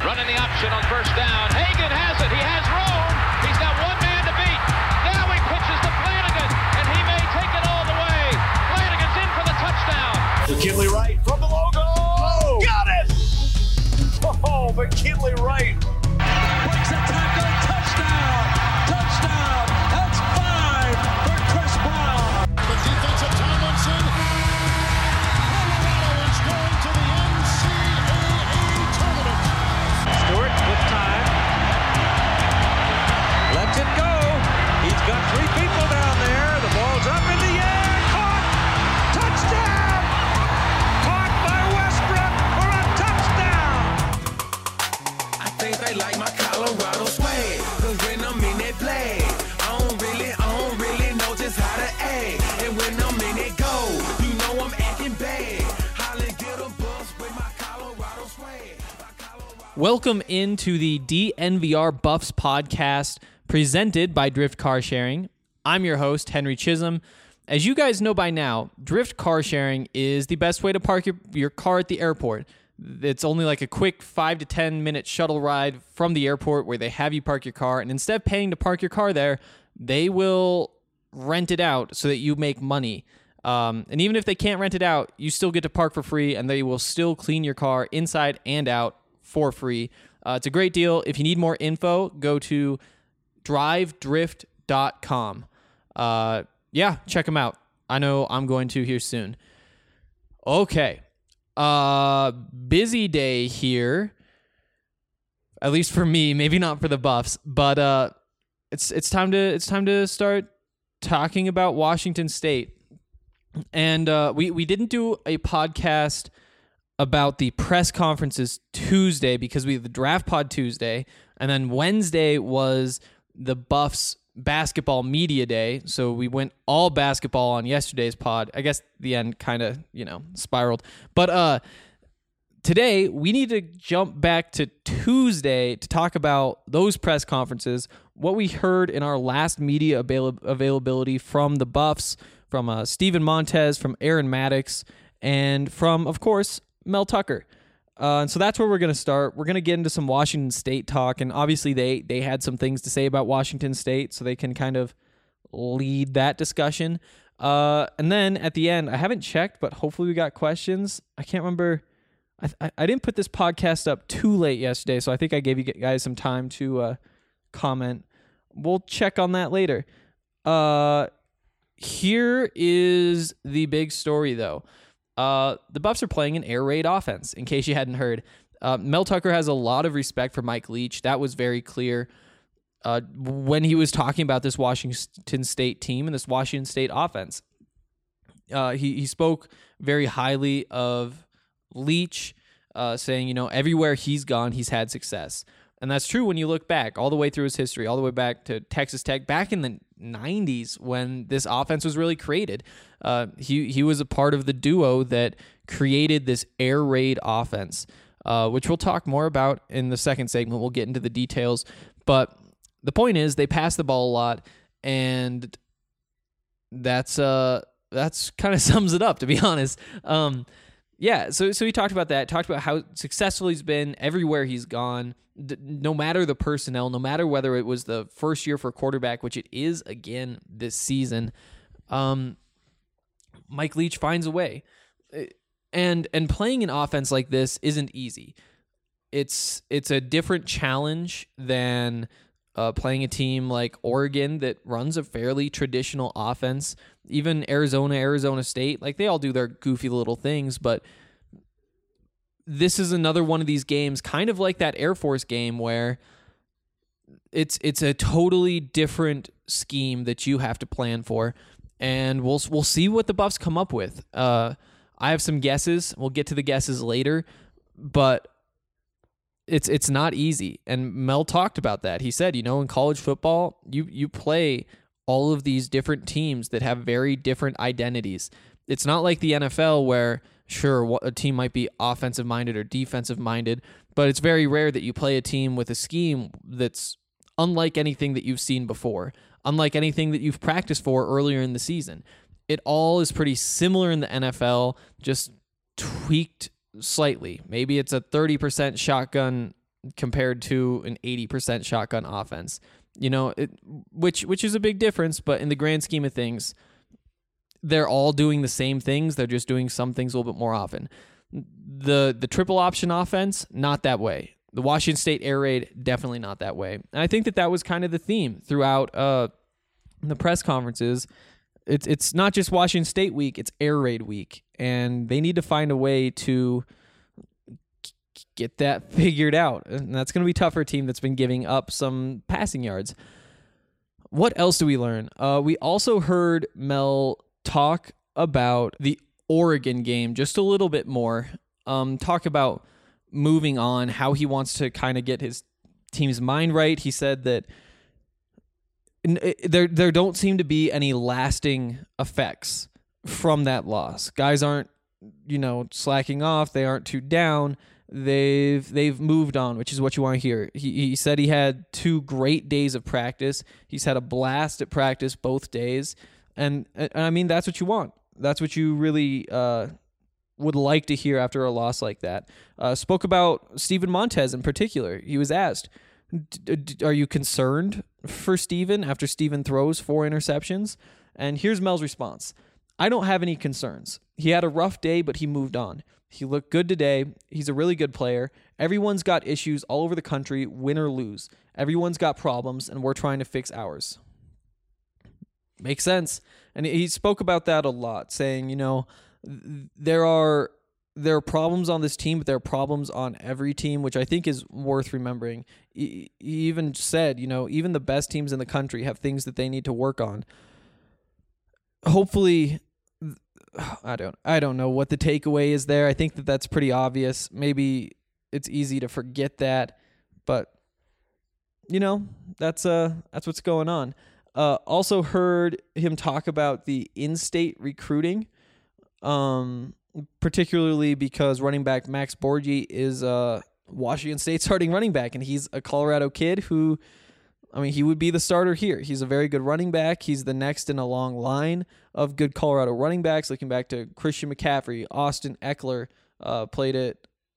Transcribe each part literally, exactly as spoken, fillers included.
Running the option on first down. Hagan has it. He has room. He's got one man to beat. Now he pitches to Flanagan, and he may take it all the way. Flanagan's in for the touchdown. McKinley Wright from the logo. Oh, got it! Oh, McKinley Wright. Breaks a tackle. Touchdown. Touchdown. That's five for Chris Brown. The defensive Tomlinson. Colorado is going to the N C double A tournament. Stewart with time. Lets it go. He's got three people down there. The ball's up in the air. Caught. Touchdown. Caught by Westbrook for a touchdown. I think they like my Colorado swag. Cause when I'm in that play, I don't really, I don't really know just how to act. And when I'm in it go, you know I'm acting bad. Holly get a bus with my Colorado swag. Welcome into the D N V R Buffs podcast presented by Drift Car Sharing. I'm your host, Henry Chisholm. As you guys know by now, Drift Car Sharing is the best way to park your, your car at the airport. It's only like a quick five to ten minute shuttle ride from the airport where they have you park your car. And instead of paying to park your car there, they will rent it out so that you make money. Um, and even if they can't rent it out, you still get to park for free, and they will still clean your car inside and out for free. Uh, it's a great deal. If you need more info, go to drive drift dot com. Uh, yeah, check them out. I know I'm going to here soon. Okay. Uh, busy day here. At least for me, maybe not for the Buffs, but uh, it's it's time to it's time to start talking about Washington State. And uh, we we didn't do a podcast about the press conferences Tuesday because we had the Draft Pod Tuesday, and then Wednesday was the Buffs basketball media day, so we went all basketball on yesterday's pod. I guess the end kind of, you know, spiraled. But uh, today, we need to jump back to Tuesday to talk about those press conferences, what we heard in our last media avail- availability from the Buffs, from uh, Steven Montez, from Aaron Maddox, and from, of course, Mel Tucker. Uh, and so that's where we're going to start. We're going to get into some Washington State talk, and obviously they they had some things to say about Washington State, so they can kind of lead that discussion. Uh, and then at the end, I haven't checked, but hopefully we got questions. I can't remember. I, I, I didn't put this podcast up too late yesterday, so I think I gave you guys some time to uh, comment. We'll check on that later. Uh, here is the big story, though. Uh, the Buffs are playing an air raid offense, in case you hadn't heard. Uh, Mel Tucker has a lot of respect for Mike Leach. That was very clear uh, when he was talking about this Washington State team and this Washington State offense. Uh, he, he spoke very highly of Leach, uh, saying, you know, everywhere he's gone, he's had success. And that's true when you look back all the way through his history, all the way back to Texas Tech, back in the nineties when this offense was really created. Uh, he he was a part of the duo that created this air raid offense, uh, which we'll talk more about in the second segment. We'll get into the details. But the point is they pass the ball a lot, and that's uh that's kind of sums it up, to be honest. Um, yeah, so so he talked about that, talked about how successful he's been everywhere he's gone. No matter the personnel, no matter whether it was the first year for quarterback, which it is again this season, um, Mike Leach finds a way. And and playing an offense like this isn't easy. It's it's a different challenge than uh, playing a team like Oregon that runs a fairly traditional offense. Even Arizona, Arizona State, like they all do their goofy little things, but this is another one of these games, kind of like that Air Force game, where it's it's a totally different scheme that you have to plan for, and we'll we'll see what the Buffs come up with. Uh, I have some guesses. We'll get to the guesses later, but it's it's not easy. And Mel talked about that. He said, you know, in college football, you you play all of these different teams that have very different identities. It's not like the N F L where, sure, a team might be offensive-minded or defensive-minded, but it's very rare that you play a team with a scheme that's unlike anything that you've seen before, unlike anything that you've practiced for earlier in the season. It all is pretty similar in the N F L, just tweaked slightly. Maybe it's a thirty percent shotgun compared to an eighty percent shotgun offense. You know, it, which which is a big difference, but in the grand scheme of things, they're all doing the same things. They're just doing some things a little bit more often. The the triple option offense, not that way. The Washington State air raid, definitely not that way. And I think that that was kind of the theme throughout uh, the press conferences. It's it's not just Washington State week, it's air raid week. And they need to find a way to get that figured out. And that's going to be tough for a team that's been giving up some passing yards. What else do we learn? Uh, we also heard Mel talk about the Oregon game just a little bit more. Um, talk about moving on, how he wants to kind of get his team's mind right. He said that there there don't seem to be any lasting effects from that loss. Guys aren't, you know, slacking off. They aren't too down. They've they've moved on, which is what you want to hear. He he said he had two great days of practice. He's had a blast at practice both days, and, and I mean that's what you want. That's what you really uh, would like to hear after a loss like that. Uh, spoke about Steven Montez in particular. He was asked, D- d- "Are you concerned for Steven after Steven throws four interceptions?" And here's Mel's response: "I don't have any concerns. He had a rough day, but he moved on. He looked good today. He's a really good player. Everyone's got issues all over the country, win or lose. Everyone's got problems, and we're trying to fix ours." Makes sense. And he spoke about that a lot, saying, you know, there are there are problems on this team, but there are problems on every team, which I think is worth remembering. He, he even said, you know, even the best teams in the country have things that they need to work on. Hopefully, I don't I don't know what the takeaway is there. I think that that's pretty obvious. Maybe it's easy to forget that, but you know, that's uh that's what's going on. Uh, also heard him talk about the in-state recruiting, um, particularly because running back Max Borgi is a Washington State starting running back, and he's a Colorado kid who, I mean, he would be the starter here. He's a very good running back. He's the next in a long line of good Colorado running backs, looking back to Christian McCaffrey, Austin Eckler, uh, played at,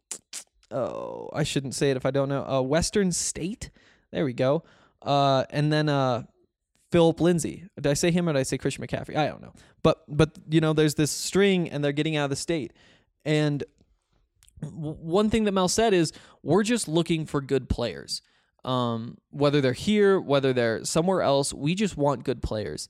oh, I shouldn't say it if I don't know, uh, Western State. There we go. Uh, and then uh, Philip Lindsay. Did I say him or did I say Christian McCaffrey? I don't know. But, but you know, there's this string, and they're getting out of the state. And w- one thing that Mel said is, we're just looking for good players. Um, whether they're here, whether they're somewhere else, we just want good players.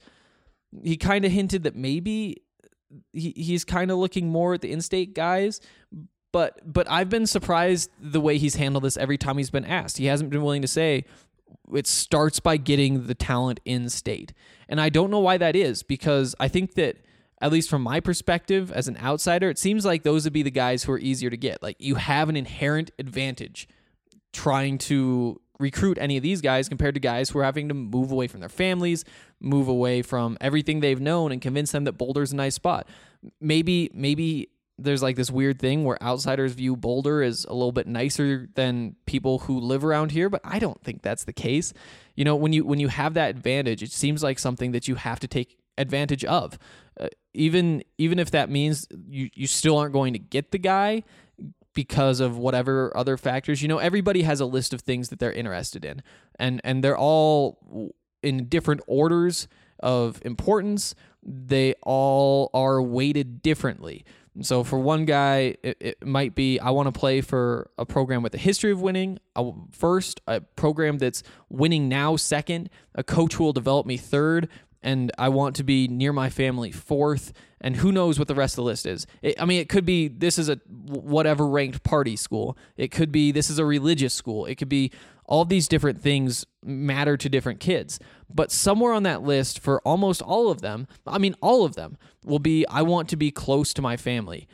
He kind of hinted that maybe he, he's kind of looking more at the in-state guys, but but I've been surprised the way he's handled this every time he's been asked. He hasn't been willing to say it starts by getting the talent in-state. And I don't know why that is, because I think that, at least from my perspective as an outsider, it seems like those would be the guys who are easier to get. Like, you have an inherent advantage trying to recruit any of these guys compared to guys who are having to move away from their families, move away from everything they've known, and convince them that Boulder's a nice spot. Maybe maybe there's like this weird thing where outsiders view Boulder as a little bit nicer than people who live around here, but I don't think that's the case. You know, when you when you have that advantage, it seems like something that you have to take advantage of. Uh, even even if that means you, you still aren't going to get the guy because of whatever other factors. You know, everybody has a list of things that they're interested in, and and they're all in different orders of importance. They all are weighted differently. So for one guy, it, it might be, I want to play for a program with a history of winning uh, first, a program that's winning now second, a coach who will develop me third, and I want to be near my family fourth, and who knows what the rest of the list is. It, I mean, it could be this is a whatever ranked party school. It could be this is a religious school. It could be all these different things matter to different kids. But somewhere on that list for almost all of them, I mean, all of them will be, I want to be close to my family.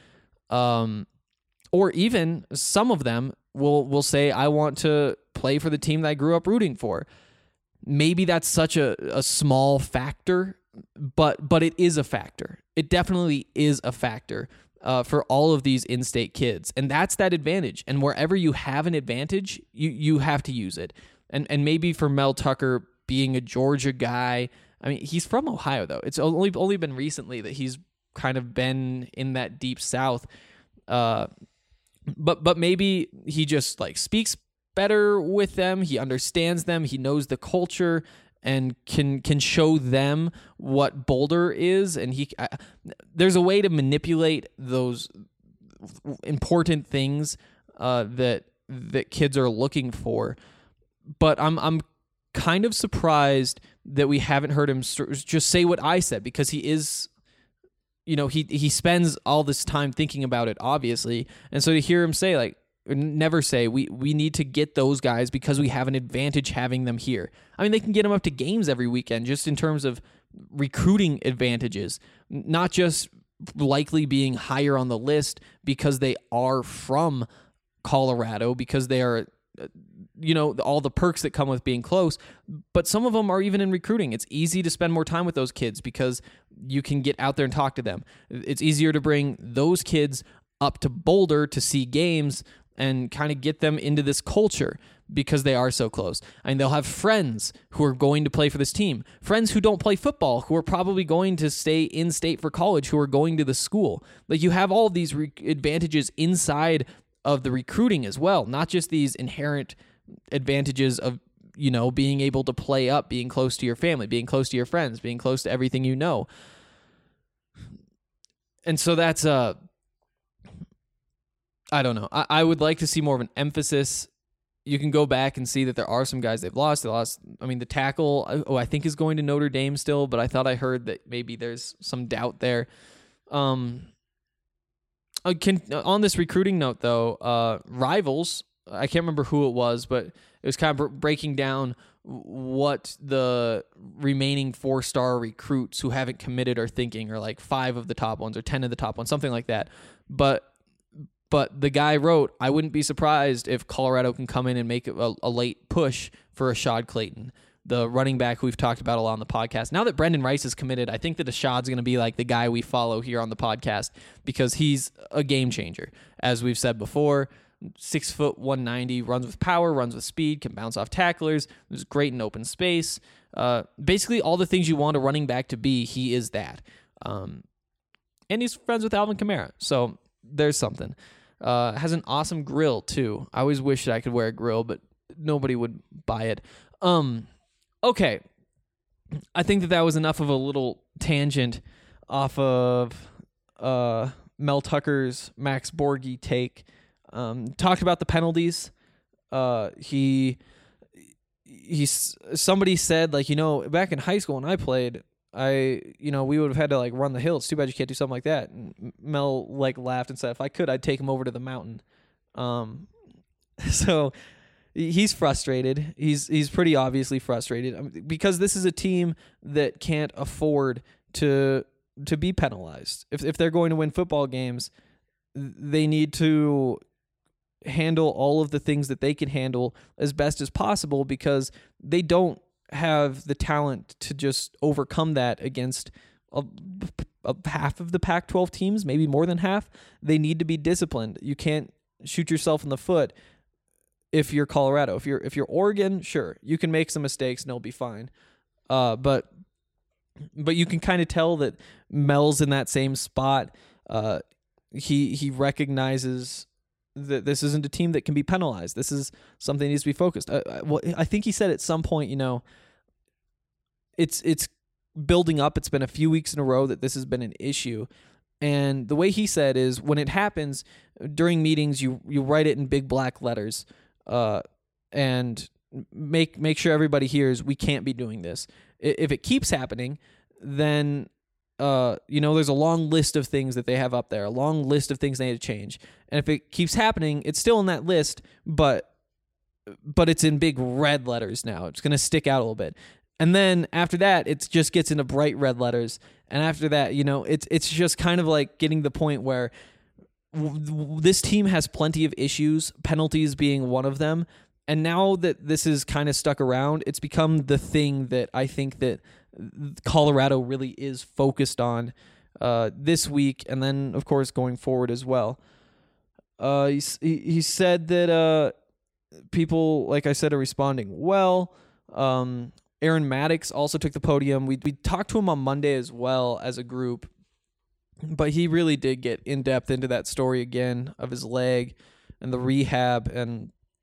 Um, or even some of them will, will say, I want to play for the team that I grew up rooting for. Maybe that's such a, a small factor, but but it is a factor. It definitely is a factor uh, for all of these in-state kids, and that's that advantage. And wherever you have an advantage, you you have to use it. And and maybe for Mel Tucker being a Georgia guy, I mean, he's from Ohio though. It's only only been recently that he's kind of been in that deep South. Uh, but but maybe he just like speaks better with them. He understands them. He knows the culture and can can show them what Boulder is. And he uh, there's a way to manipulate those important things uh, that that kids are looking for. But I'm I'm kind of surprised that we haven't heard him just say what I said, because he is, you know, he he spends all this time thinking about it, obviously. And so to hear him say, like, never say, we, we need to get those guys because we have an advantage having them here. I mean, they can get them up to games every weekend just in terms of recruiting advantages, not just likely being higher on the list because they are from Colorado, because they are, you know, all the perks that come with being close, but some of them are even in recruiting. It's easy to spend more time with those kids because you can get out there and talk to them. It's easier to bring those kids up to Boulder to see games and kind of get them into this culture because they are so close. I mean, they'll have friends who are going to play for this team, friends who don't play football, who are probably going to stay in state for college, who are going to the school. Like, you have all of these re- advantages inside of the recruiting as well, not just these inherent advantages of, you know, being able to play up, being close to your family, being close to your friends, being close to everything you know. And so that's, uh, I don't know. I, I would like to see more of an emphasis. You can go back and see that there are some guys they've lost. They lost, I mean, the tackle, oh, I think is going to Notre Dame still, but I thought I heard that maybe there's some doubt there. Um, I can, on this recruiting note, though, uh, Rivals, I can't remember who it was, but it was kind of breaking down what the remaining four-star recruits who haven't committed are thinking, or like five of the top ones or ten of the top ones, something like that. But But the guy wrote, I wouldn't be surprised if Colorado can come in and make a, a late push for Ashad Clayton, the running back who we've talked about a lot on the podcast. Now that Brendan Rice is committed, I think that Ashad's going to be like the guy we follow here on the podcast because he's a game changer. As we've said before, six foot, one ninety, runs with power, runs with speed, can bounce off tacklers, is great in open space. Uh, basically, all the things you want a running back to be, he is that. Um, and he's friends with Alvin Kamara, so there's something. Uh, has an awesome grill too. I always wish that I could wear a grill, but nobody would buy it. Um, okay. I think that that was enough of a little tangent off of uh, Mel Tucker's Max Borghi take. Um, talked about the penalties. Uh, he he's somebody said, like, you know, back in high school when I played, I, you know, we would have had to, like, run the hill. It's too bad you can't do something like that. And Mel, like, laughed and said, if I could, I'd take him over to the mountain. Um, so he's frustrated. He's he's pretty obviously frustrated I mean, because this is a team that can't afford to to be penalized. If if they're going to win football games, they need to handle all of the things that they can handle as best as possible because they don't have the talent to just overcome that against a, a half of the Pac twelve teams, maybe more than half. They need to be disciplined. You can't shoot yourself in the foot if you're Colorado. If you're if you're Oregon, sure, you can make some mistakes and it'll be fine. Uh, but but you can kind of tell that Mel's in that same spot. Uh, he he recognizes that this isn't a team that can be penalized. This is something that needs to be focused. I, I, well, I think he said at some point, you know, it's it's building up. It's been a few weeks in a row that this has been an issue. And the way he said is when it happens during meetings, you you write it in big black letters uh, and make make sure everybody hears we can't be doing this. If it keeps happening, then Uh, you know, there's a long list of things that they have up there, a long list of things they need to change. And if it keeps happening, it's still in that list, but but it's in big red letters now. It's going to stick out a little bit. And then after that, it just gets into bright red letters. And after that, you know, it's it's just kind of like getting the point where w- w- this team has plenty of issues, penalties being one of them. And now that this is kind of stuck around, it's become the thing that I think that Colorado really is focused on uh, this week, and then, of course, going forward as well. Uh, he, he said that uh, people, like I said, are responding well. Um, Aaron Maddox also took the podium. We we talked to him on Monday as well as a group, but he really did get in-depth into that story again of his leg and the rehab, and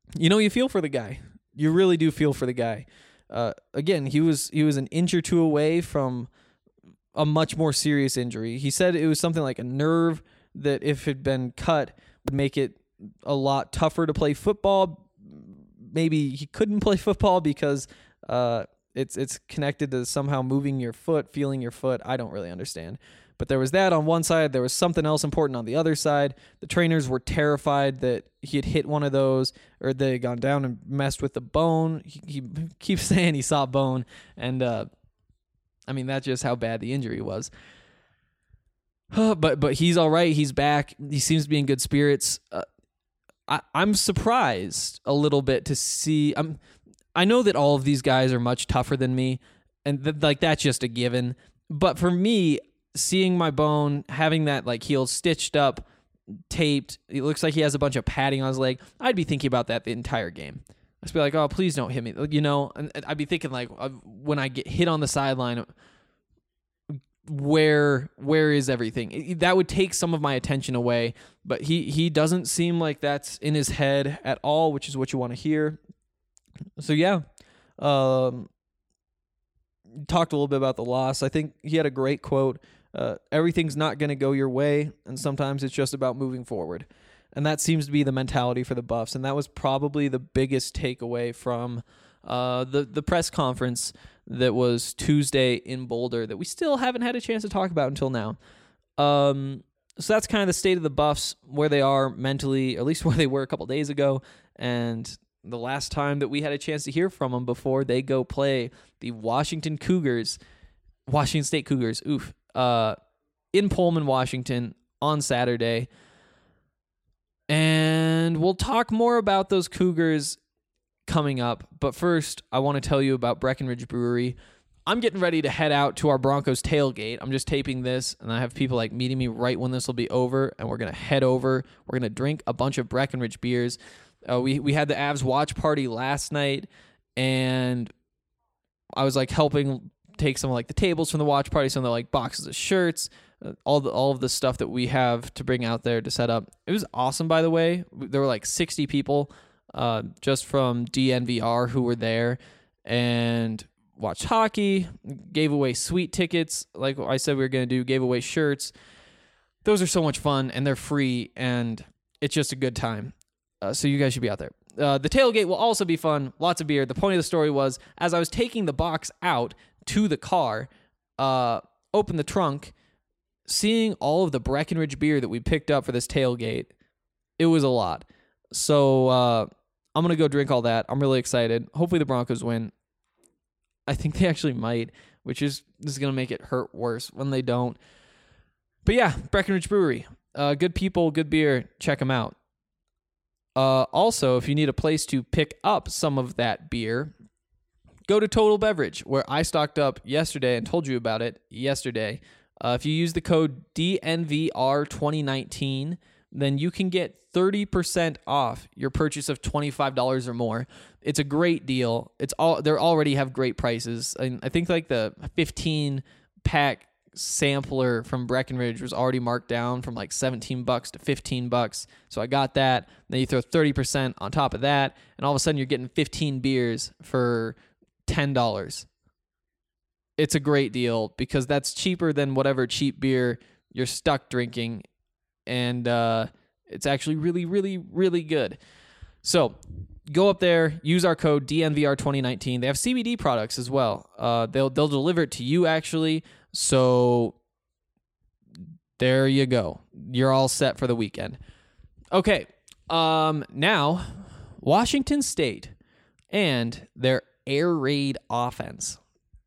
you know, you feel for the guy. You really do feel for the guy. Uh, again, he was he was an inch or two away from a much more serious injury. He said it was something like a nerve that, if it had been cut, would make it a lot tougher to play football. Maybe he couldn't play football because uh, it's it's connected to somehow moving your foot, feeling your foot. I don't really understand. But there was that on one side. There was something else important on the other side. The trainers were terrified that he had hit one of those, or they had gone down and messed with the bone. He, he keeps saying he saw bone. And, uh, I mean, that's just how bad the injury was. but but he's all right. He's back. He seems to be in good spirits. Uh, I, I'm surprised a little bit to see. I'm, I know that all of these guys are much tougher than me, and th- like that's just a given. But for me, seeing my bone, having that like heel stitched up, taped, it looks like he has a bunch of padding on his leg, I'd be thinking about that the entire game. I'd just be like, oh, please don't hit me. You know, and I'd be thinking like, uh, when I get hit on the sideline, where where is everything? It, that would take some of my attention away, but he, he doesn't seem like that's in his head at all, which is what you want to hear. So yeah, um, talked a little bit about the loss. I think he had a great quote. Uh, everything's not going to go your way, and sometimes it's just about moving forward. And that seems to be the mentality for the Buffs, and that was probably the biggest takeaway from uh, the, the press conference that was Tuesday in Boulder that we still haven't had a chance to talk about until now. Um, so that's kind of the state of the Buffs, where they are mentally, or at least where they were a couple days ago, and the last time that we had a chance to hear from them before they go play the Washington Cougars, Washington State Cougars, oof, uh, in Pullman, Washington on Saturday. And we'll talk more about those Cougars coming up. But first, I want to tell you about Breckenridge Brewery. I'm getting ready to head out to our Broncos tailgate. I'm just taping this, and I have people like meeting me right when this will be over, and we're going to head over. We're going to drink a bunch of Breckenridge beers. Uh, we, we had the Avs watch party last night, and I was like helping take some of like the tables from the watch party, some of the like boxes of shirts, uh, all the all of the stuff that we have to bring out there to set up. It was awesome, by the way. There were like sixty people uh, just from D N V R who were there and watched hockey, gave away sweet tickets like I said we were going to do, gave away shirts. Those are so much fun, and they're free, and it's just a good time. Uh, so you guys should be out there. Uh, the tailgate will also be fun. Lots of beer. The point of the story was, as I was taking the box out to the car, uh, open the trunk, seeing all of the Breckenridge beer that we picked up for this tailgate, it was a lot. So uh, I'm going to go drink all that. I'm really excited. Hopefully the Broncos win. I think they actually might, which is this is going to make it hurt worse when they don't. But yeah, Breckenridge Brewery. Uh, good people, good beer. Check them out. Uh, also, if you need a place to pick up some of that beer, go to Total Beverage, where I stocked up yesterday and told you about it yesterday. Uh, if you use the code D N V R twenty nineteen, then you can get thirty percent off your purchase of twenty-five dollars or more. It's a great deal. It's all they already have great prices. And I think like the fifteen pack sampler from Breckenridge was already marked down from like seventeen bucks to fifteen bucks. So I got that. Then you throw thirty percent on top of that, and all of a sudden you're getting fifteen beers for ten dollars. It's a great deal because that's cheaper than whatever cheap beer you're stuck drinking, and uh, it's actually really, really, really good. So go up there, use our code D N V R twenty nineteen. They have C B D products as well. Uh, they'll they'll deliver it to you actually. So there you go. You're all set for the weekend. Okay. Um, now, Washington State and their air raid offense.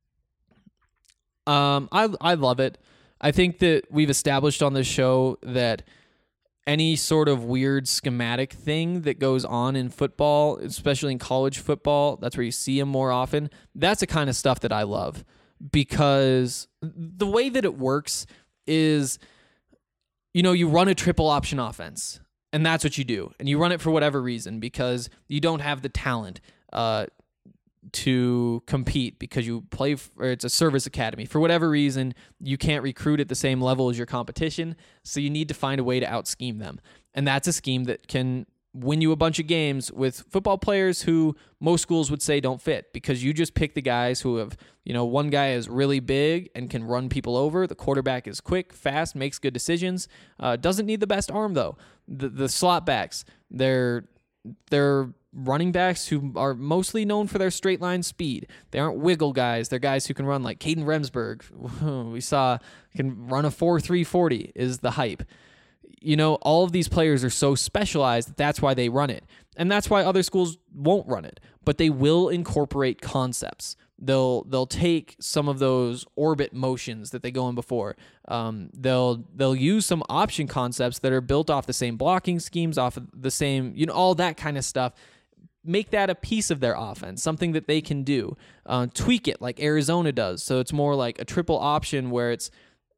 Um, I I love it. I think that we've established on this show that any sort of weird schematic thing that goes on in football, especially in college football, that's where you see them more often. That's the kind of stuff that I love, because the way that it works is, you know, you run a triple option offense, and that's what you do. And you run it for whatever reason, because you don't have the talent uh, to compete, because you play, f- or it's a service academy. For whatever reason, you can't recruit at the same level as your competition, so you need to find a way to out-scheme them. And that's a scheme that can win you a bunch of games with football players who most schools would say don't fit, because you just pick the guys who have, you know, one guy is really big and can run people over. The quarterback is quick, fast, makes good decisions. Uh, doesn't need the best arm though. The the slot backs, they're they're running backs who are mostly known for their straight line speed. They aren't wiggle guys. They're guys who can run, like Caden Remsburg. We saw can run a four three forty is the hype. You know, all of these players are so specialized that that's why they run it. And that's why other schools won't run it. But they will incorporate concepts. They'll they'll take some of those orbit motions that they go in before. Um, they'll they'll use some option concepts that are built off the same blocking schemes, off of the same, you know, all that kind of stuff. Make that a piece of their offense, something that they can do. Uh, tweak it like Arizona does. So it's more like a triple option where it's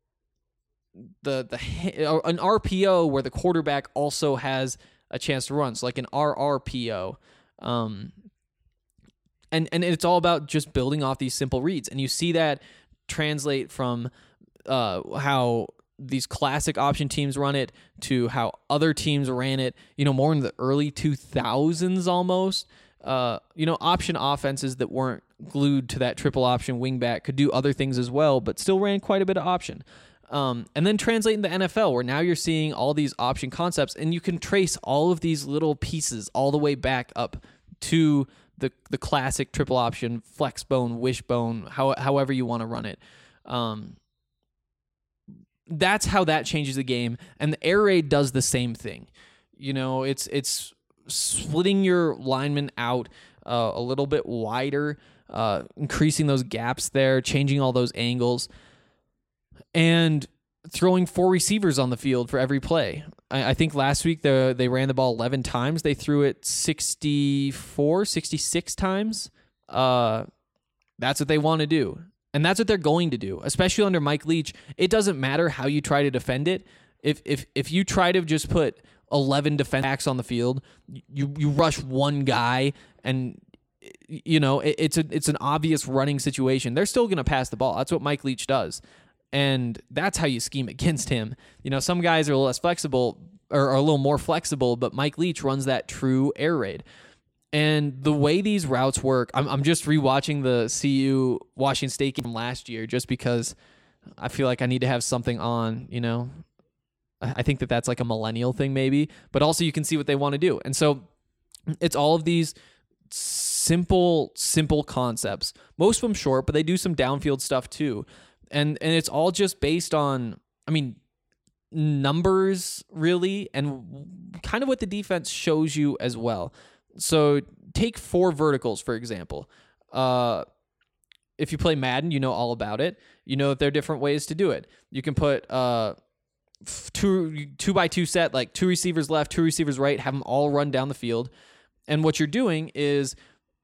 the the an R P O where the quarterback also has a chance to run. So like an R R P O. Um, and and it's all about just building off these simple reads. And you see that translate from uh, how these classic option teams run it to how other teams ran it, you know, more in the early two thousands almost. Uh, you know, option offenses that weren't glued to that triple option wingback could do other things as well, but still ran quite a bit of option. Um, and then translate in the N F L, where now you're seeing all these option concepts, and you can trace all of these little pieces all the way back up to the the classic triple option, flex bone, wishbone, how, however you want to run it. Um, that's how that changes the game, and the air raid does the same thing. You know, it's it's splitting your linemen out uh, a little bit wider, uh, increasing those gaps there, changing all those angles, and throwing four receivers on the field for every play. I, I think last week the, they ran the ball eleven times. They threw it sixty-four, sixty-six times. Uh, that's what they want to do. And that's what they're going to do, especially under Mike Leach. It doesn't matter how you try to defend it. If if if you try to just put eleven defense backs on the field, you you rush one guy, and you know it, it's a it's an obvious running situation. They're still going to pass the ball. That's what Mike Leach does. And that's how you scheme against him. You know, some guys are a little less flexible or are a little more flexible, but Mike Leach runs that true air raid. And the way these routes work, I'm, I'm just rewatching the C U Washington State game from last year just because I feel like I need to have something on, you know. I think that that's like a millennial thing maybe, but also you can see what they want to do. And so it's all of these simple, simple concepts. Most of them short, but they do some downfield stuff too. And and it's all just based on, I mean, numbers really, and kind of what the defense shows you as well. So take four verticals, for example. Uh, if you play Madden, you know all about it. You know that there are different ways to do it. You can put uh, two two by two set, like two receivers left, two receivers right, have them all run down the field. And what you're doing is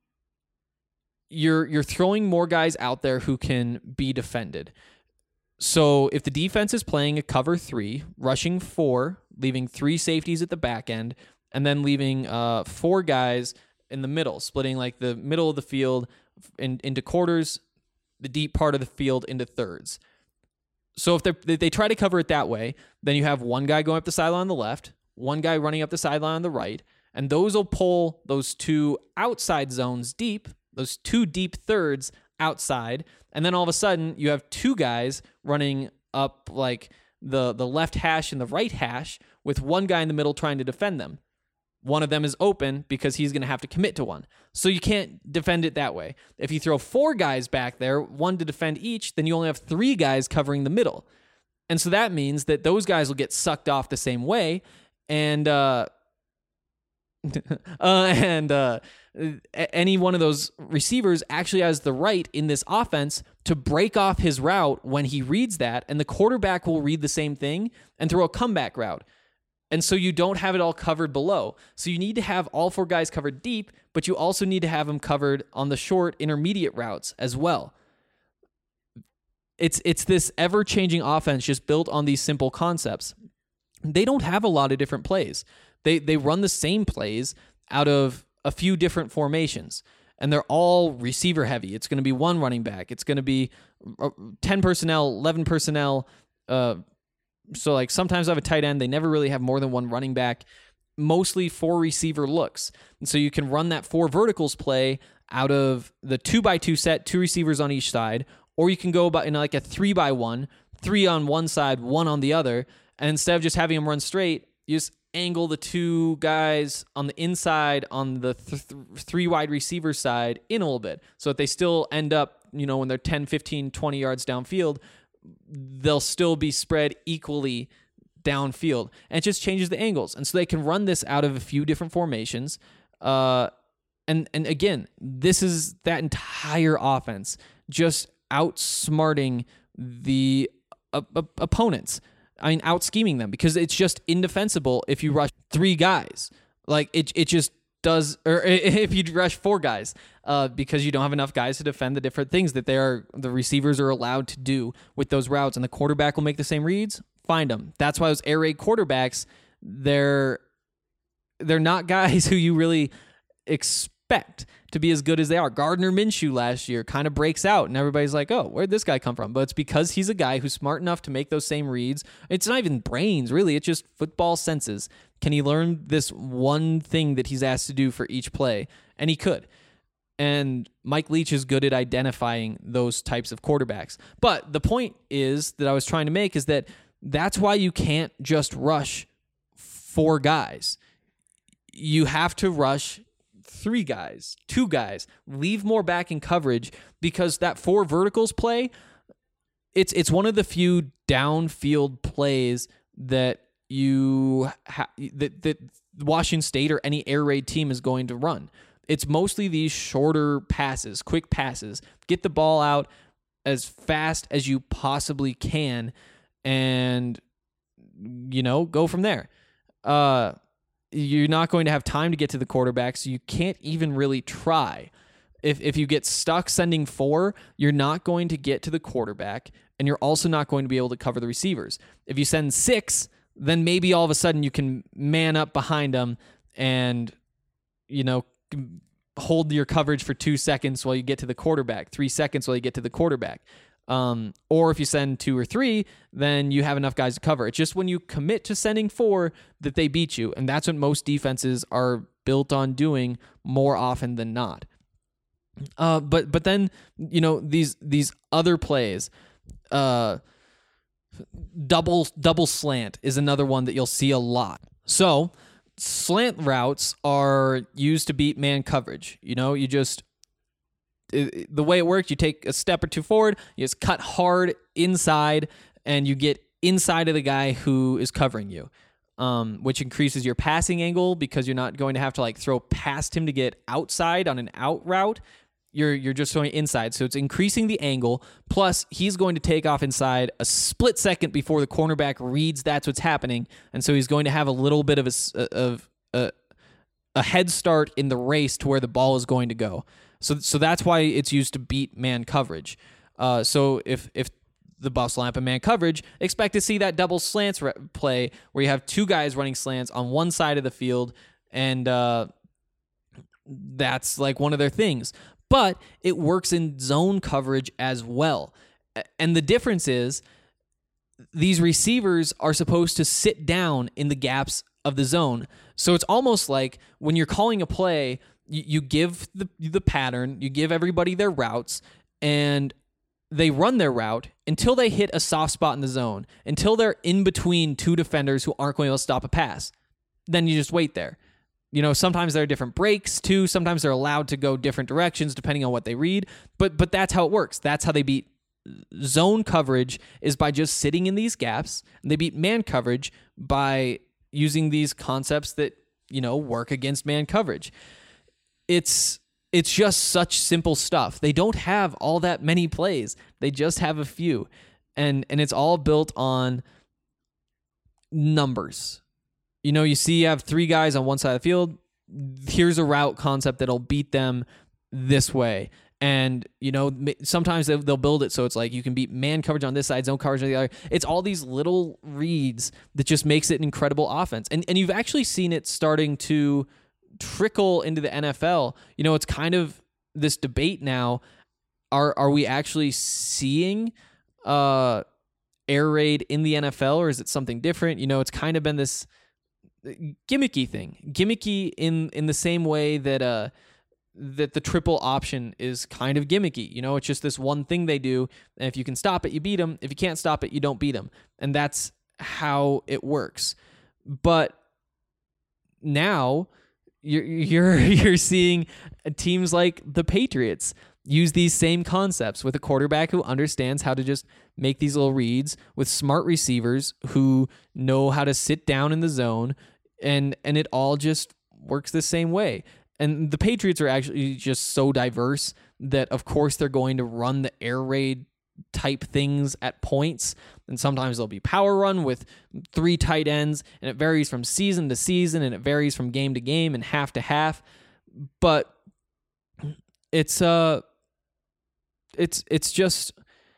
you're you're throwing more guys out there who can be defended. So if the defense is playing a cover three, rushing four, leaving three safeties at the back end, and then leaving uh, four guys in the middle, splitting like the middle of the field in, into quarters, the deep part of the field into thirds. So if, if they try to cover it that way, then you have one guy going up the sideline on the left, one guy running up the sideline on the right, and those will pull those two outside zones deep, those two deep thirds outside, and then all of a sudden you have two guys running up like the, the left hash and the right hash with one guy in the middle trying to defend them. One of them is open because he's going to have to commit to one. So you can't defend it that way. If you throw four guys back there, one to defend each, then you only have three guys covering the middle. And so that means that those guys will get sucked off the same way. And, uh, uh, and uh, any one of those receivers actually has the right in this offense to break off his route when he reads that, and the quarterback will read the same thing and throw a comeback route. And so you don't have it all covered below. So you need to have all four guys covered deep, but you also need to have them covered on the short intermediate routes as well. It's it's this ever-changing offense just built on these simple concepts. They don't have a lot of different plays. They they run the same plays out of a few different formations, and they're all receiver heavy. It's going to be one running back. It's going to be ten personnel, eleven personnel. Uh, so like sometimes I have a tight end. They never really have more than one running back. mostly four receiver looks. And so you can run that four verticals play out of the two by two set, two receivers on each side, or you can go about in like a three by one, three on one side, one on the other. And instead of just having them run straight, you just angle the two guys on the inside on the th- th- three wide receiver side in a little bit so that they still end up, you know, when they're ten, fifteen, twenty yards downfield, they'll still be spread equally downfield. And it just changes the angles. And so they can run this out of a few different formations. Uh, and, and again, this is that entire offense just outsmarting the uh, uh, opponents. I mean, out scheming them because it's just indefensible if you rush three guys. Like it, it just does, or if you rush four guys, uh, because you don't have enough guys to defend the different things that they are, the receivers are allowed to do with those routes, and the quarterback will make the same reads. Find them. That's why those air raid quarterbacks, they're they're not guys who you really expect to be as good as they are. Gardner Minshew last year kind of breaks out, and everybody's like, oh, where'd this guy come from? But it's because he's a guy who's smart enough to make those same reads. It's not even brains, really. It's just football senses. Can he learn this one thing that he's asked to do for each play? And he could. And Mike Leach is good at identifying those types of quarterbacks. But the point is that I was trying to make is that that's why you can't just rush four guys. You have to rush three guys, two guys, leave more back in coverage because that four verticals play, it's it's one of the few downfield plays that you ha- that that Washington State or any air raid team is going to run. It's mostly these shorter passes, quick passes. Get the ball out as fast as you possibly can and, you know, go from there. Uh You're not going to have time to get to the quarterback, so you can't even really try. If if you get stuck sending four, you're not going to get to the quarterback, and you're also not going to be able to cover the receivers. If you send six, then maybe all of a sudden you can man up behind them and, you know, hold your coverage for two seconds while you get to the quarterback, three seconds while you get to the quarterback. Um, or if you send two or three, then you have enough guys to cover. It's just when you commit to sending four that they beat you. And that's what most defenses are built on doing more often than not. Uh, but but then, you know, these these other plays, uh, double double slant is another one that you'll see a lot. So slant routes are used to beat man coverage. You know, you just... the way it works, you take a step or two forward, you just cut hard inside, and you get inside of the guy who is covering you, um, which increases your passing angle because you're not going to have to like throw past him to get outside on an out route. You're you're just going inside, so it's increasing the angle. Plus, he's going to take off inside a split second before the cornerback reads that's what's happening, and so he's going to have a little bit of a of a, a head start in the race to where the ball is going to go. So so that's why it's used to beat man coverage. Uh, so if if the Buffs line up in man coverage, expect to see that double slants re- play where you have two guys running slants on one side of the field, and uh, that's like one of their things. But it works in zone coverage as well. And the difference is these receivers are supposed to sit down in the gaps of the zone. So it's almost like when you're calling a play, you give the the pattern, you give everybody their routes, and they run their route until they hit a soft spot in the zone, until they're in between two defenders who aren't going to stop a pass. Then you just wait there. You know, sometimes there are different breaks too. Sometimes they're allowed to go different directions depending on what they read. But but that's how it works. That's how they beat zone coverage, is by just sitting in these gaps. And they beat man coverage by using these concepts that, you know, work against man coverage. It's it's just such simple stuff. They don't have all that many plays. They just have a few. And and it's all built on numbers. You know, you see you have three guys on one side of the field. Here's a route concept that'll beat them this way. And, you know, sometimes they'll build it so it's like you can beat man coverage on this side, zone coverage on the other. It's all these little reads that just makes it an incredible offense. And and you've actually seen it starting to trickle into the N F L. You know, it's kind of this debate now. Are are we actually seeing uh, air raid in the N F L, or is it something different? You know, it's kind of been this gimmicky thing, gimmicky in in the same way that uh that the triple option is kind of gimmicky. You know, it's just this one thing they do, and if you can stop it, you beat them. If you can't stop it, you don't beat them, and that's how it works. But now you're you're you're seeing teams like the Patriots use these same concepts with a quarterback who understands how to just make these little reads, with smart receivers who know how to sit down in the zone, and and it all just works the same way. And the Patriots are actually just so diverse that, of course, they're going to run the air raid type things at points. And sometimes there'll be power run with three tight ends, and it varies from season to season, and it varies from game to game and half to half. But it's uh, it's it's just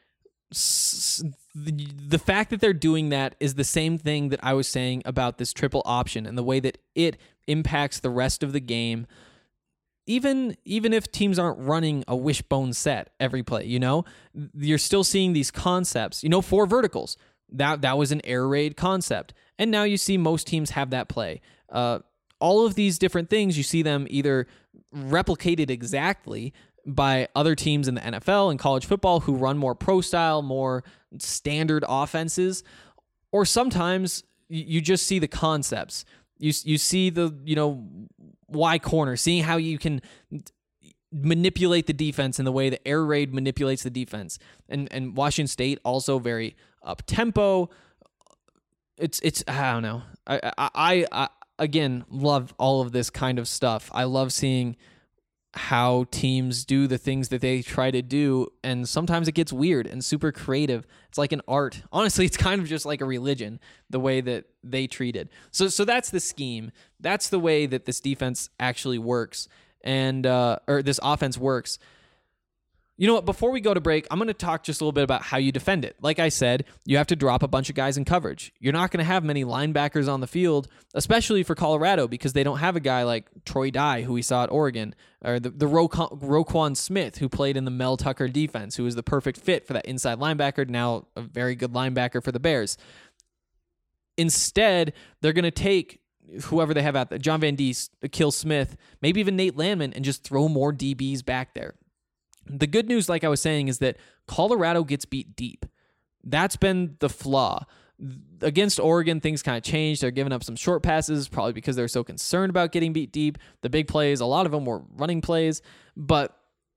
the, the fact that they're doing that is the same thing that I was saying about this triple option and the way that it impacts the rest of the game. Even even if teams aren't running a wishbone set every play, you know, you're still seeing these concepts. You know, four verticals. That that was an air raid concept, and now you see most teams have that play. Uh, all of these different things, you see them either replicated exactly by other teams in the N F L and college football who run more pro style, more standard offenses, or sometimes you just see the concepts. You you see the you know. Y corner, seeing how you can manipulate the defense in the way that air raid manipulates the defense, and and Washington State also very up tempo. It's it's I don't know. I, I I I again love all of this kind of stuff. I love seeing how teams do the things that they try to do, and sometimes it gets weird and super creative. It's like an art. Honestly, it's kind of just like a religion, the way that they treat it. So so that's the scheme. That's the way that this defense actually works, and uh, or this offense works. You know what? Before we go to break, I'm going to talk just a little bit about how you defend it. Like I said, you have to drop a bunch of guys in coverage. You're not going to have many linebackers on the field, especially for Colorado, because they don't have a guy like Troy Dye, who we saw at Oregon, or the, the Ro- Roquan Smith, who played in the Mel Tucker defense, who was the perfect fit for that inside linebacker, now a very good linebacker for the Bears. Instead, they're going to take whoever they have out there, John Van Diest, Akil Smith, maybe even Nate Landman, and just throw more D Bs back there. The good news, like I was saying, is that Colorado gets beat deep. That's been the flaw. Against Oregon, things kind of changed. They're giving up some short passes, probably because they're so concerned about getting beat deep. The big plays, a lot of them were running plays, but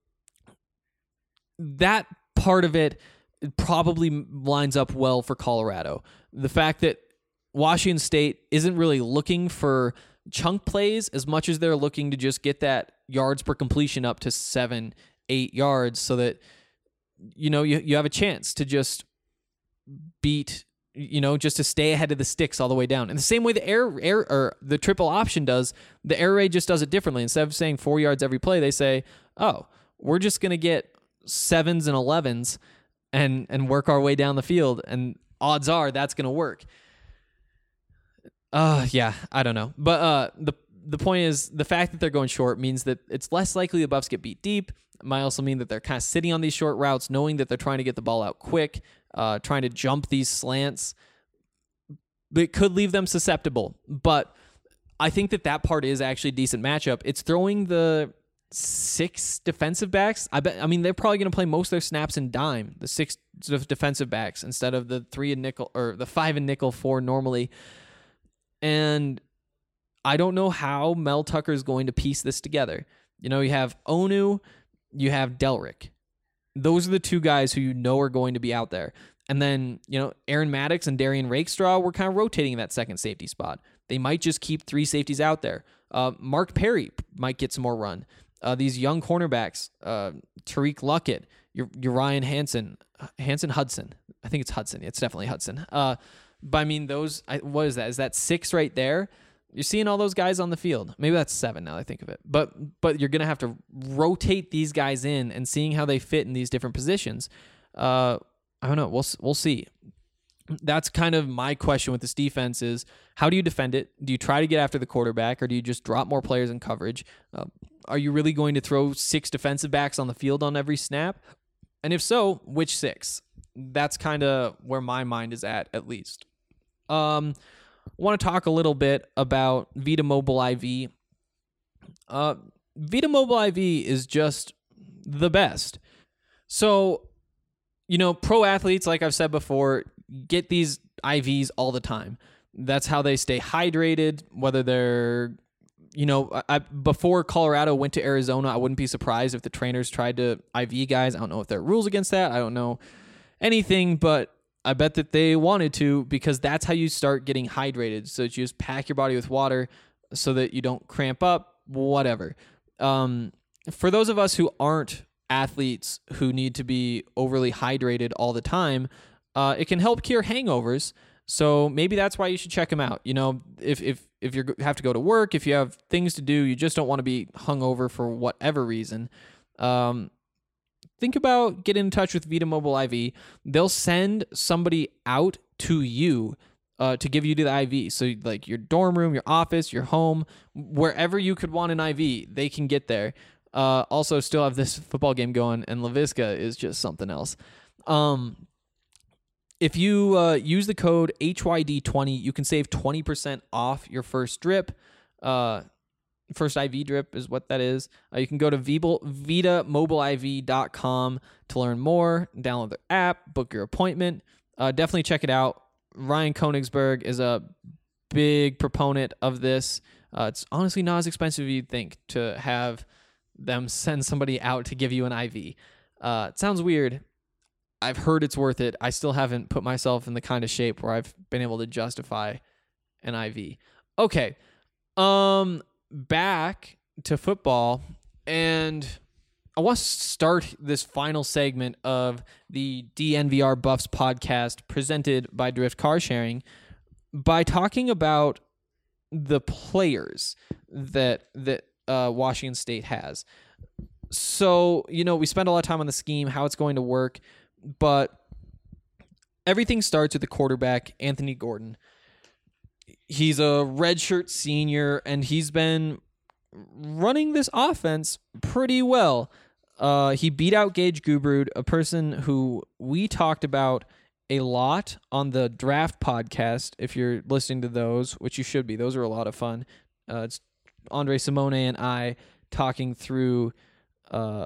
that part of it probably lines up well for Colorado. The fact that Washington State isn't really looking for chunk plays as much as they're looking to just get that yards per completion up to seven, eight yards so that, you know, you, you have a chance to just beat, you know, just to stay ahead of the sticks all the way down. And the same way the air, air or the triple option does, the air raid just does it differently. Instead of saying four yards every play, they say, oh, we're just going to get sevens and elevens and, and work our way down the field. And odds are that's going to work. Uh, yeah, I don't know. But uh, the the point is, the fact that they're going short means that it's less likely the Buffs get beat deep. It might also mean that they're kind of sitting on these short routes, knowing that they're trying to get the ball out quick, uh, trying to jump these slants. It could leave them susceptible. But I think that that part is actually a decent matchup. It's throwing the six defensive backs. I bet. I mean, they're probably going to play most of their snaps in dime, the six defensive backs, instead of the three and nickel, or the five and nickel four normally. And I don't know how Mel Tucker is going to piece this together. You know, you have Onu, you have Delrick. Those are the two guys who you know are going to be out there. And then, you know, Aaron Maddox and Darian Rakestraw were kind of rotating that second safety spot. They might just keep three safeties out there. Uh, Mark Perry might get some more run. Uh, these young cornerbacks, uh, Tariq Luckett, your, your Ryan Hansen, Hansen Hudson. I think it's Hudson. It's definitely Hudson. Uh, but I mean, those, I, what is that? Is that six right there? You're seeing all those guys on the field. Maybe that's seven now that I think of it. But but you're going to have to rotate these guys in and seeing how they fit in these different positions. Uh, I don't know. We'll we'll see. That's kind of my question with this defense is, how do you defend it? Do you try to get after the quarterback, or do you just drop more players in coverage? Uh, are you really going to throw six defensive backs on the field on every snap? And if so, which six? That's kind of where my mind is at, at least. Um, want to talk a little bit about Vita Mobile I V. Uh, Vita Mobile I V is just the best. So, you know, pro athletes, like I've said before, get these I Vs all the time. That's how they stay hydrated, whether they're, you know, I, before Colorado went to Arizona, I wouldn't be surprised if the trainers tried to I V guys. I don't know if there are rules against that. I don't know anything, but I bet that they wanted to, because that's how you start getting hydrated. So that you just pack your body with water so that you don't cramp up, whatever. Um, for those of us who aren't athletes who need to be overly hydrated all the time, uh, it can help cure hangovers. So maybe that's why you should check them out. You know, if if if you have to go to work, if you have things to do, you just don't want to be hungover for whatever reason. Um, think about getting in touch with Vita Mobile I V. They'll send somebody out to you uh, to give you the I V. So like your dorm room, your office, your home, wherever you could want an I V, they can get there. Uh, also, still have this football game going, and LaVisca is just something else. Um, if you uh, use the code H Y D twenty, you can save twenty percent off your first drip. Uh, first I V drip is what that is. Uh, you can go to Vita Mobile I V dot com to learn more, download their app, book your appointment. Uh, definitely check it out. Ryan Koenigsberg is a big proponent of this. Uh, it's honestly not as expensive as you'd think to have them send somebody out to give you an I V. Uh, it sounds weird. I've heard it's worth it. I still haven't put myself in the kind of shape where I've been able to justify an I V. Okay. Um, back to football, and I want to start this final segment of the D N V R Buffs podcast presented by Drift Car Sharing by talking about the players that that uh, Washington State has. So, you know, we spend a lot of time on the scheme, how it's going to work, but everything starts with the quarterback, Anthony Gordon. He's a redshirt senior, and he's been running this offense pretty well. Uh, he beat out Gage Gubrud, a person who we talked about a lot on the draft podcast. If you're listening to those, which you should be, those are a lot of fun. Uh, it's Andre Simone and I talking through, uh,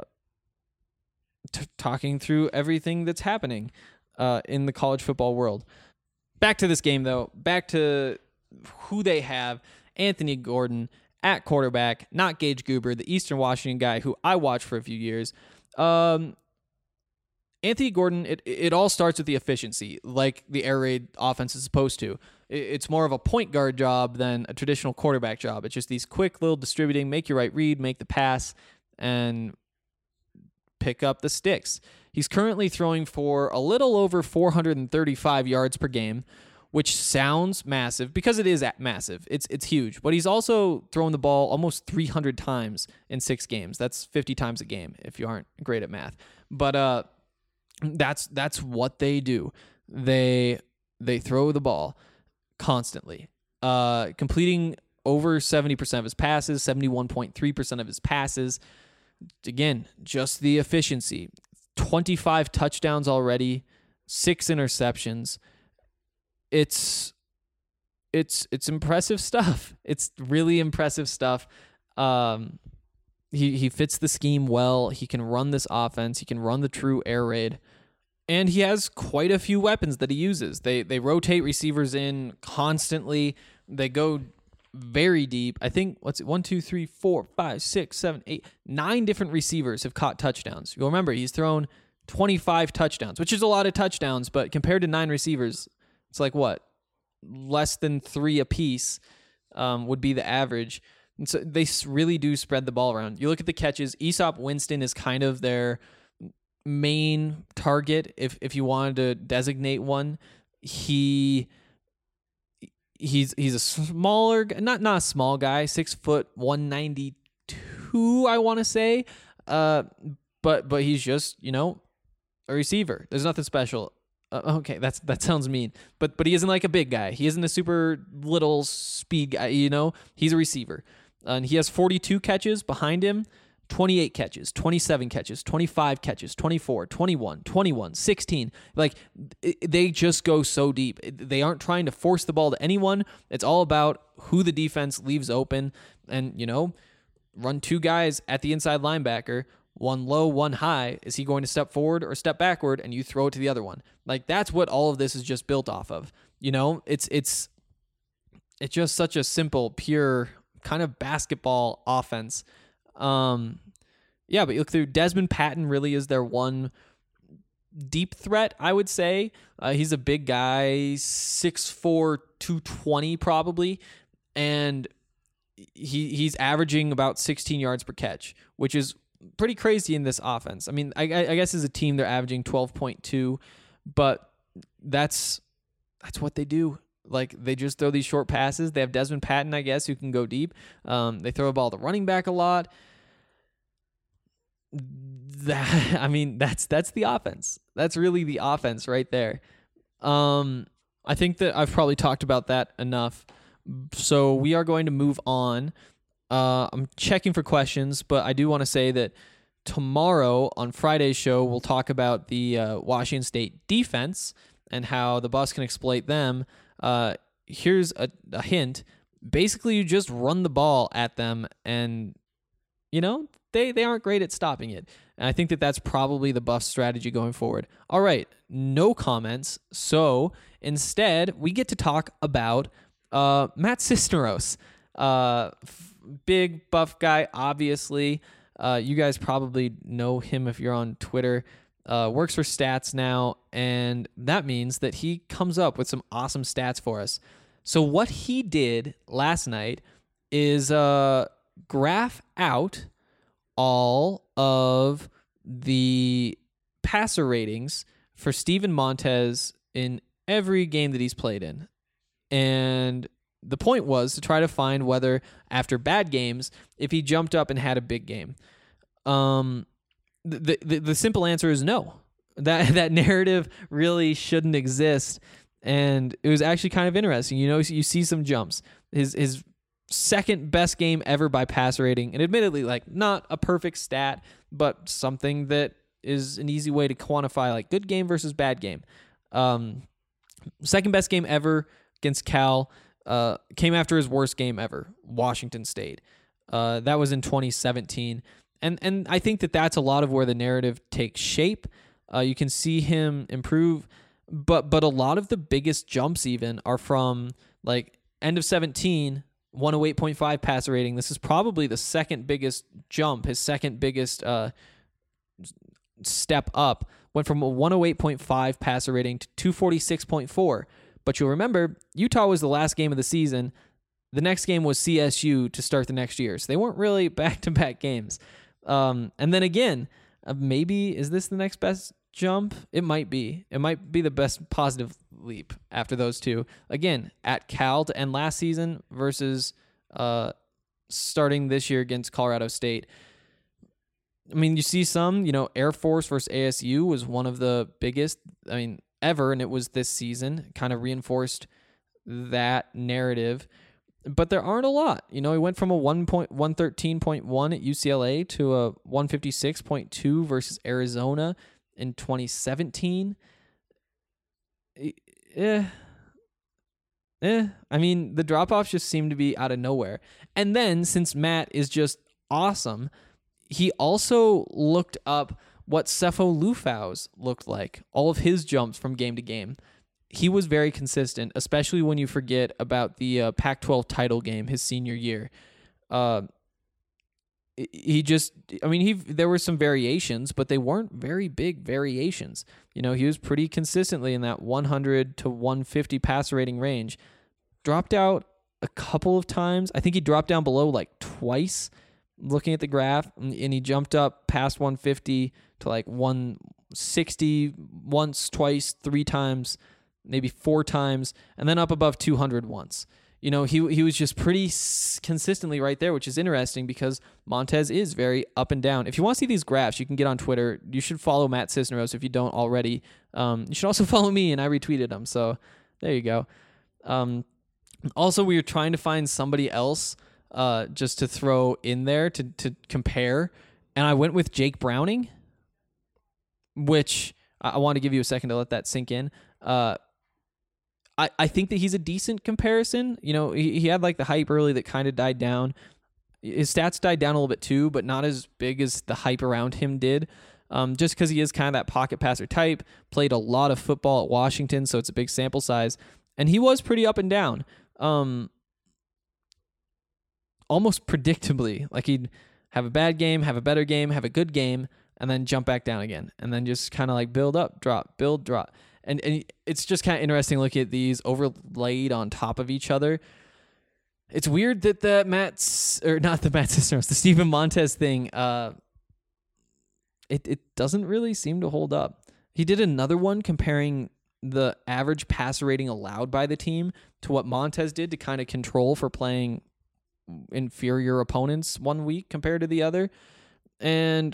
t- talking through everything that's happening uh, in the college football world. Back to this game, though. Back to who they have. Anthony Gordon at quarterback, not Gage Gubrud, the Eastern Washington guy who I watched for a few years. Um, Anthony Gordon, it, it all starts with the efficiency, like the air raid offense is supposed to. It, it's more of a point guard job than a traditional quarterback job. It's just these quick little distributing, make your right read, make the pass, and pick up the sticks. He's currently throwing for a little over four hundred thirty-five yards per game, which sounds massive because it is massive. It's it's huge. But he's also throwing the ball almost three hundred times in six games. That's fifty times a game if you aren't great at math. But uh, that's that's what they do. They they throw the ball constantly, uh, completing over seventy percent of his passes, seventy-one point three percent of his passes. Again, just the efficiency. twenty-five touchdowns already, six interceptions. It's it's it's impressive stuff. It's really impressive stuff. Um, he he fits the scheme well. He can run this offense. He can run the true air raid, and he has quite a few weapons that he uses. They they rotate receivers in constantly. They go very deep. I think what's it? One, two, three, four, five, six, seven, eight, nine different receivers have caught touchdowns. You'll remember he's thrown twenty-five touchdowns, which is a lot of touchdowns, but compared to nine receivers, it's like what? Less than three apiece um, would be the average. And so they really do spread the ball around. You look at the catches. Aesop Winston is kind of their main target. If if you wanted to designate one, he he's he's a smaller, not not a small guy, six foot one ninety two. I want to say, uh, but but he's just you know a receiver. There's nothing special. Uh, okay, that's that sounds mean, but but he isn't like a big guy. He isn't a super little speed guy. You know, he's a receiver, uh, and he has forty-two catches behind him. twenty-eight catches, twenty-seven catches, twenty-five catches, twenty-four, twenty-one, twenty-one, sixteen. Like, it, they just go so deep. They aren't trying to force the ball to anyone. It's all about who the defense leaves open and, you know, run two guys at the inside linebacker, one low, one high. Is he going to step forward or step backward? And you throw it to the other one. Like, that's what all of this is just built off of. You know, it's, it's, it's just such a simple, pure kind of basketball offense. Um, yeah, but you look through, Desmond Patton really is their one deep threat, I would say. Uh, he's a big guy, six four, two twenty probably, and he he's averaging about sixteen yards per catch, which is pretty crazy in this offense. I mean, I, I guess as a team they're averaging twelve point two, but that's that's what they do. Like, they just throw these short passes. They have Desmond Patton, I guess, who can go deep. Um, they throw the ball to running back a lot. That, I mean, that's that's the offense. That's really the offense right there. Um, I think that I've probably talked about that enough. So we are going to move on. Uh, I'm checking for questions, but I do want to say that tomorrow on Friday's show, we'll talk about the uh, Washington State defense and how the Buffs can exploit them. Uh, here's a, a hint. Basically, you just run the ball at them, and, you know, they, they aren't great at stopping it. And I think that that's probably the Buffs' strategy going forward. All right, no comments. So instead, we get to talk about uh, Matt Cisneros. Uh, f- big buff guy, obviously. Uh, you guys probably know him if you're on Twitter. Uh, works for Stats now, and that means that he comes up with some awesome stats for us. So what he did last night is uh, graph out all of the passer ratings for Steven Montez in every game that he's played in. And the point was to try to find whether, after bad games, if he jumped up and had a big game. Um... The, the the simple answer is no. That that narrative really shouldn't exist, and it was actually kind of interesting. You know, you see some jumps. His his second best game ever by passer rating, and admittedly, like, not a perfect stat, but something that is an easy way to quantify, like, good game versus bad game. Um, second best game ever against Cal uh, came after his worst game ever, Washington State. Uh, that was in twenty seventeen. And and I think that that's a lot of where the narrative takes shape. Uh, you can see him improve, but but a lot of the biggest jumps even are from, like, end of seventeen, one oh eight point five passer rating. This is probably the second biggest jump, his second biggest uh, step up. Went from a one oh eight point five passer rating to two forty-six point four. But you'll remember, Utah was the last game of the season. The next game was C S U to start the next year. So they weren't really back-to-back games. Um, and then again, uh, maybe, is this the next best jump? It might be. It might be the best positive leap after those two. Again, at Cal to end last season versus uh, starting this year against Colorado State. I mean, you see some, you know, Air Force versus A S U was one of the biggest, I mean, ever, and it was this season. Kind of reinforced that narrative. But there aren't a lot. You know, he went from a one thirteen point one at U C L A to a one fifty-six point two versus Arizona in twenty seventeen. Eh. Eh. I mean, the drop-offs just seem to be out of nowhere. And then, since Matt is just awesome, he also looked up what Sefo Lufau's looked like, all of his jumps from game to game. He was very consistent, especially when you forget about the uh, Pac twelve title game his senior year. Uh, he just, I mean, he there were some variations, but they weren't very big variations. You know, he was pretty consistently in that one hundred to one fifty passer rating range. Dropped out a couple of times. I think he dropped down below like twice, looking at the graph, and he jumped up past one fifty to like one sixty once, twice, three times, maybe four times, and then up above two hundred once. You know, he he was just pretty s- consistently right there, which is interesting because Montez is very up and down. If you want to see these graphs, you can get on Twitter. You should follow Matt Cisneros if you don't already. Um, you should also follow me, and I retweeted him. So there you go. Um, also, we were trying to find somebody else uh, just to throw in there to to compare, and I went with Jake Browning, which I, I want to give you a second to let that sink in. Uh, I, I think that he's a decent comparison. You know, he, he had like the hype early that kind of died down. His stats died down a little bit too, but not as big as the hype around him did. Um, just because he is kind of that pocket passer type, played a lot of football at Washington, so it's a big sample size. And he was pretty up and down. Um, almost predictably. Like he'd have a bad game, have a better game, have a good game, and then jump back down again. And then just kind of like build up, drop, build, drop. And, and it's just kind of interesting looking at these overlaid on top of each other. It's weird that the Matt's, or not the Matt Cisneros, the Steven Montez thing, uh, it, it doesn't really seem to hold up. He did another one comparing the average passer rating allowed by the team to what Montez did to kind of control for playing inferior opponents one week compared to the other. And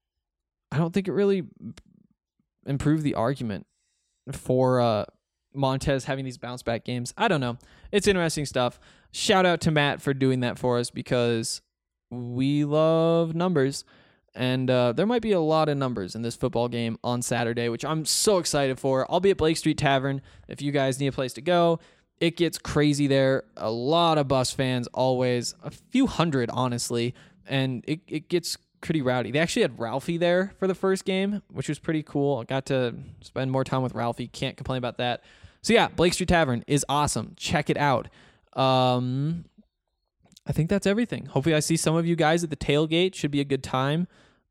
I don't think it really improved the argument for uh, Montez having these bounce back games. I don't know. It's interesting stuff. Shout out to Matt for doing that for us because we love numbers. And uh, there might be a lot of numbers in this football game on Saturday, which I'm so excited for. I'll be at Blake Street Tavern if you guys need a place to go. It gets crazy there. A lot of Buffs fans always, a few hundred, honestly. And it, it gets pretty rowdy. They actually had Ralphie there for the first game, which was pretty cool. I got to spend more time with Ralphie. Can't complain about that. So yeah, Blake Street Tavern is awesome. Check it out. Um, I think that's everything. Hopefully I see some of you guys at the tailgate. Should be a good time.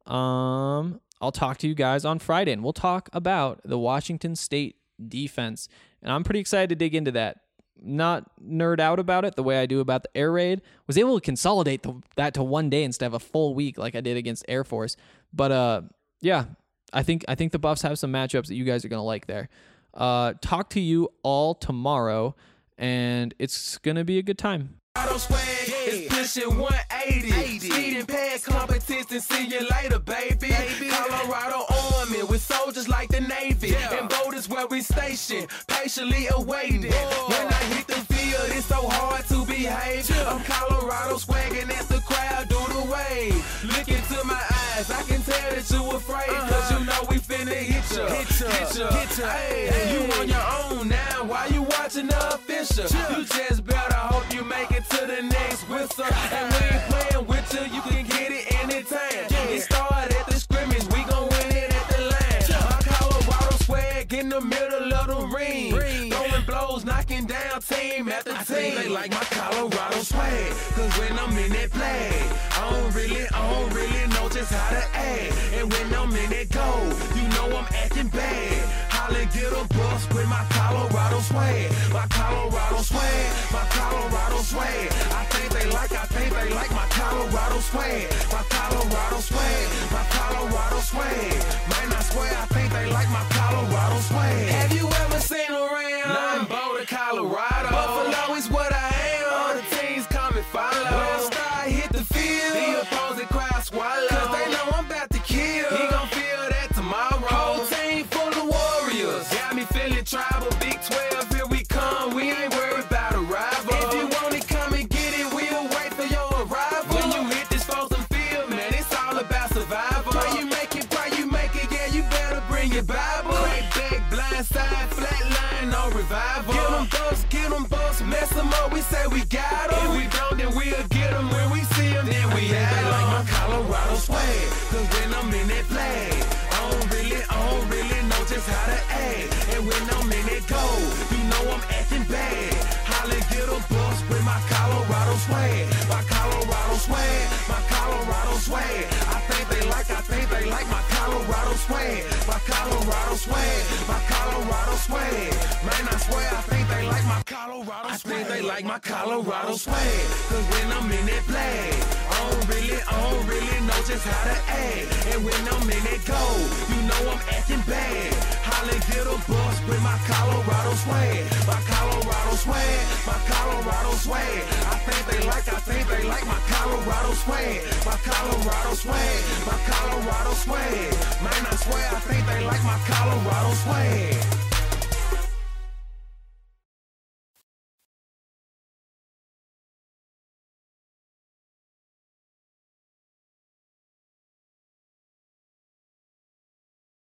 Um, I'll talk to you guys on Friday, and we'll talk about the Washington State defense. And I'm pretty excited to dig into that. Not nerd out about it the way I do about the air raid. Was able to consolidate the, that to one day instead of a full week like I did against Air Force. But uh, yeah, I think I think the Buffs have some matchups that you guys are gonna like there. Uh, talk to you all tomorrow, and it's gonna be a good time. Auto swag is pushing one eighty. Speeding past competition, see you later, baby. baby. Colorado Army with soldiers like the Navy. Yeah. And boat is where we station, patiently awaiting. Whoa. When I hit the field, it's so hard to behave. Yeah. I'm Colorado swagging as the crowd do the wave. Look into my eyes, I can tell that you afraid. Uh-huh. Cause you know we finna hit ya. Hit ya, hit ya, hit ya. Hey, hey. You on your own now, why you watching the official? Yeah. You just better hope you make it to the next whistle. And we ain't playing with you, you can get it anytime. Yeah. It started at the scrimmage, we gon' win it at the line. Yeah. My Colorado swag in the middle of the ring. ring. Throwing blows, knocking down team after team. I think they like my Colorado swag, cause when I'm in that play, I don't really, I don't really know just how to act. And when I'm in that goal, you know I'm acting bad. Holla, get a bus with my Colorado swag. My Colorado swag, my Colorado swag. I think they like, I think they like my Colorado swag. My Colorado swag, my Colorado swag. Man, I swear, I think they like my Colorado swag. Have you ever seen around? Nothing Boulder, Colorado. Buffalo is what I am. All the teams come and follow. When I start hit the field, the opposing crowd swallow. Cause they know I'm about to kill. He gon' feel that tomorrow. Whole team full of warriors. Got me feeling tribal. Big twelve, here we come. We ain't worried about a rival. If you want it, come and get it. We'll wait for your arrival. When you hit this frozen field, man, it's all about survival. Why you make it, why you make it, yeah, you better bring your Bible. Crack back, blind side, flat line, no revival. Get them bucks, get them bucks, mess them up, we say we got them. If we don't, then we'll get them. When we see them, then we have them. Like my Colorado swag, cause when I'm in that play, I don't really, I don't really know just how to act. And when I'm in that goal, you know I'm acting bad. Holla, get a bus with my Colorado swag. My Colorado swag, my Colorado swag. I think they like, I think they like my Colorado swag. My Colorado swag, my Colorado swag. Man, I swear, I think they like my Colorado swag. I think they like my Colorado swag. Cause when I'm in that play, I don't really, I don't really know just how to act. And when I'm in that goal, you know I'm acting bad. Holla, get a bus with my Colorado swag. My Colorado swag, my Colorado swag. I think they like, I think they like my Colorado swag. My Colorado swag, my Colorado swag. Man, I swear, I think they like my Colorado swag.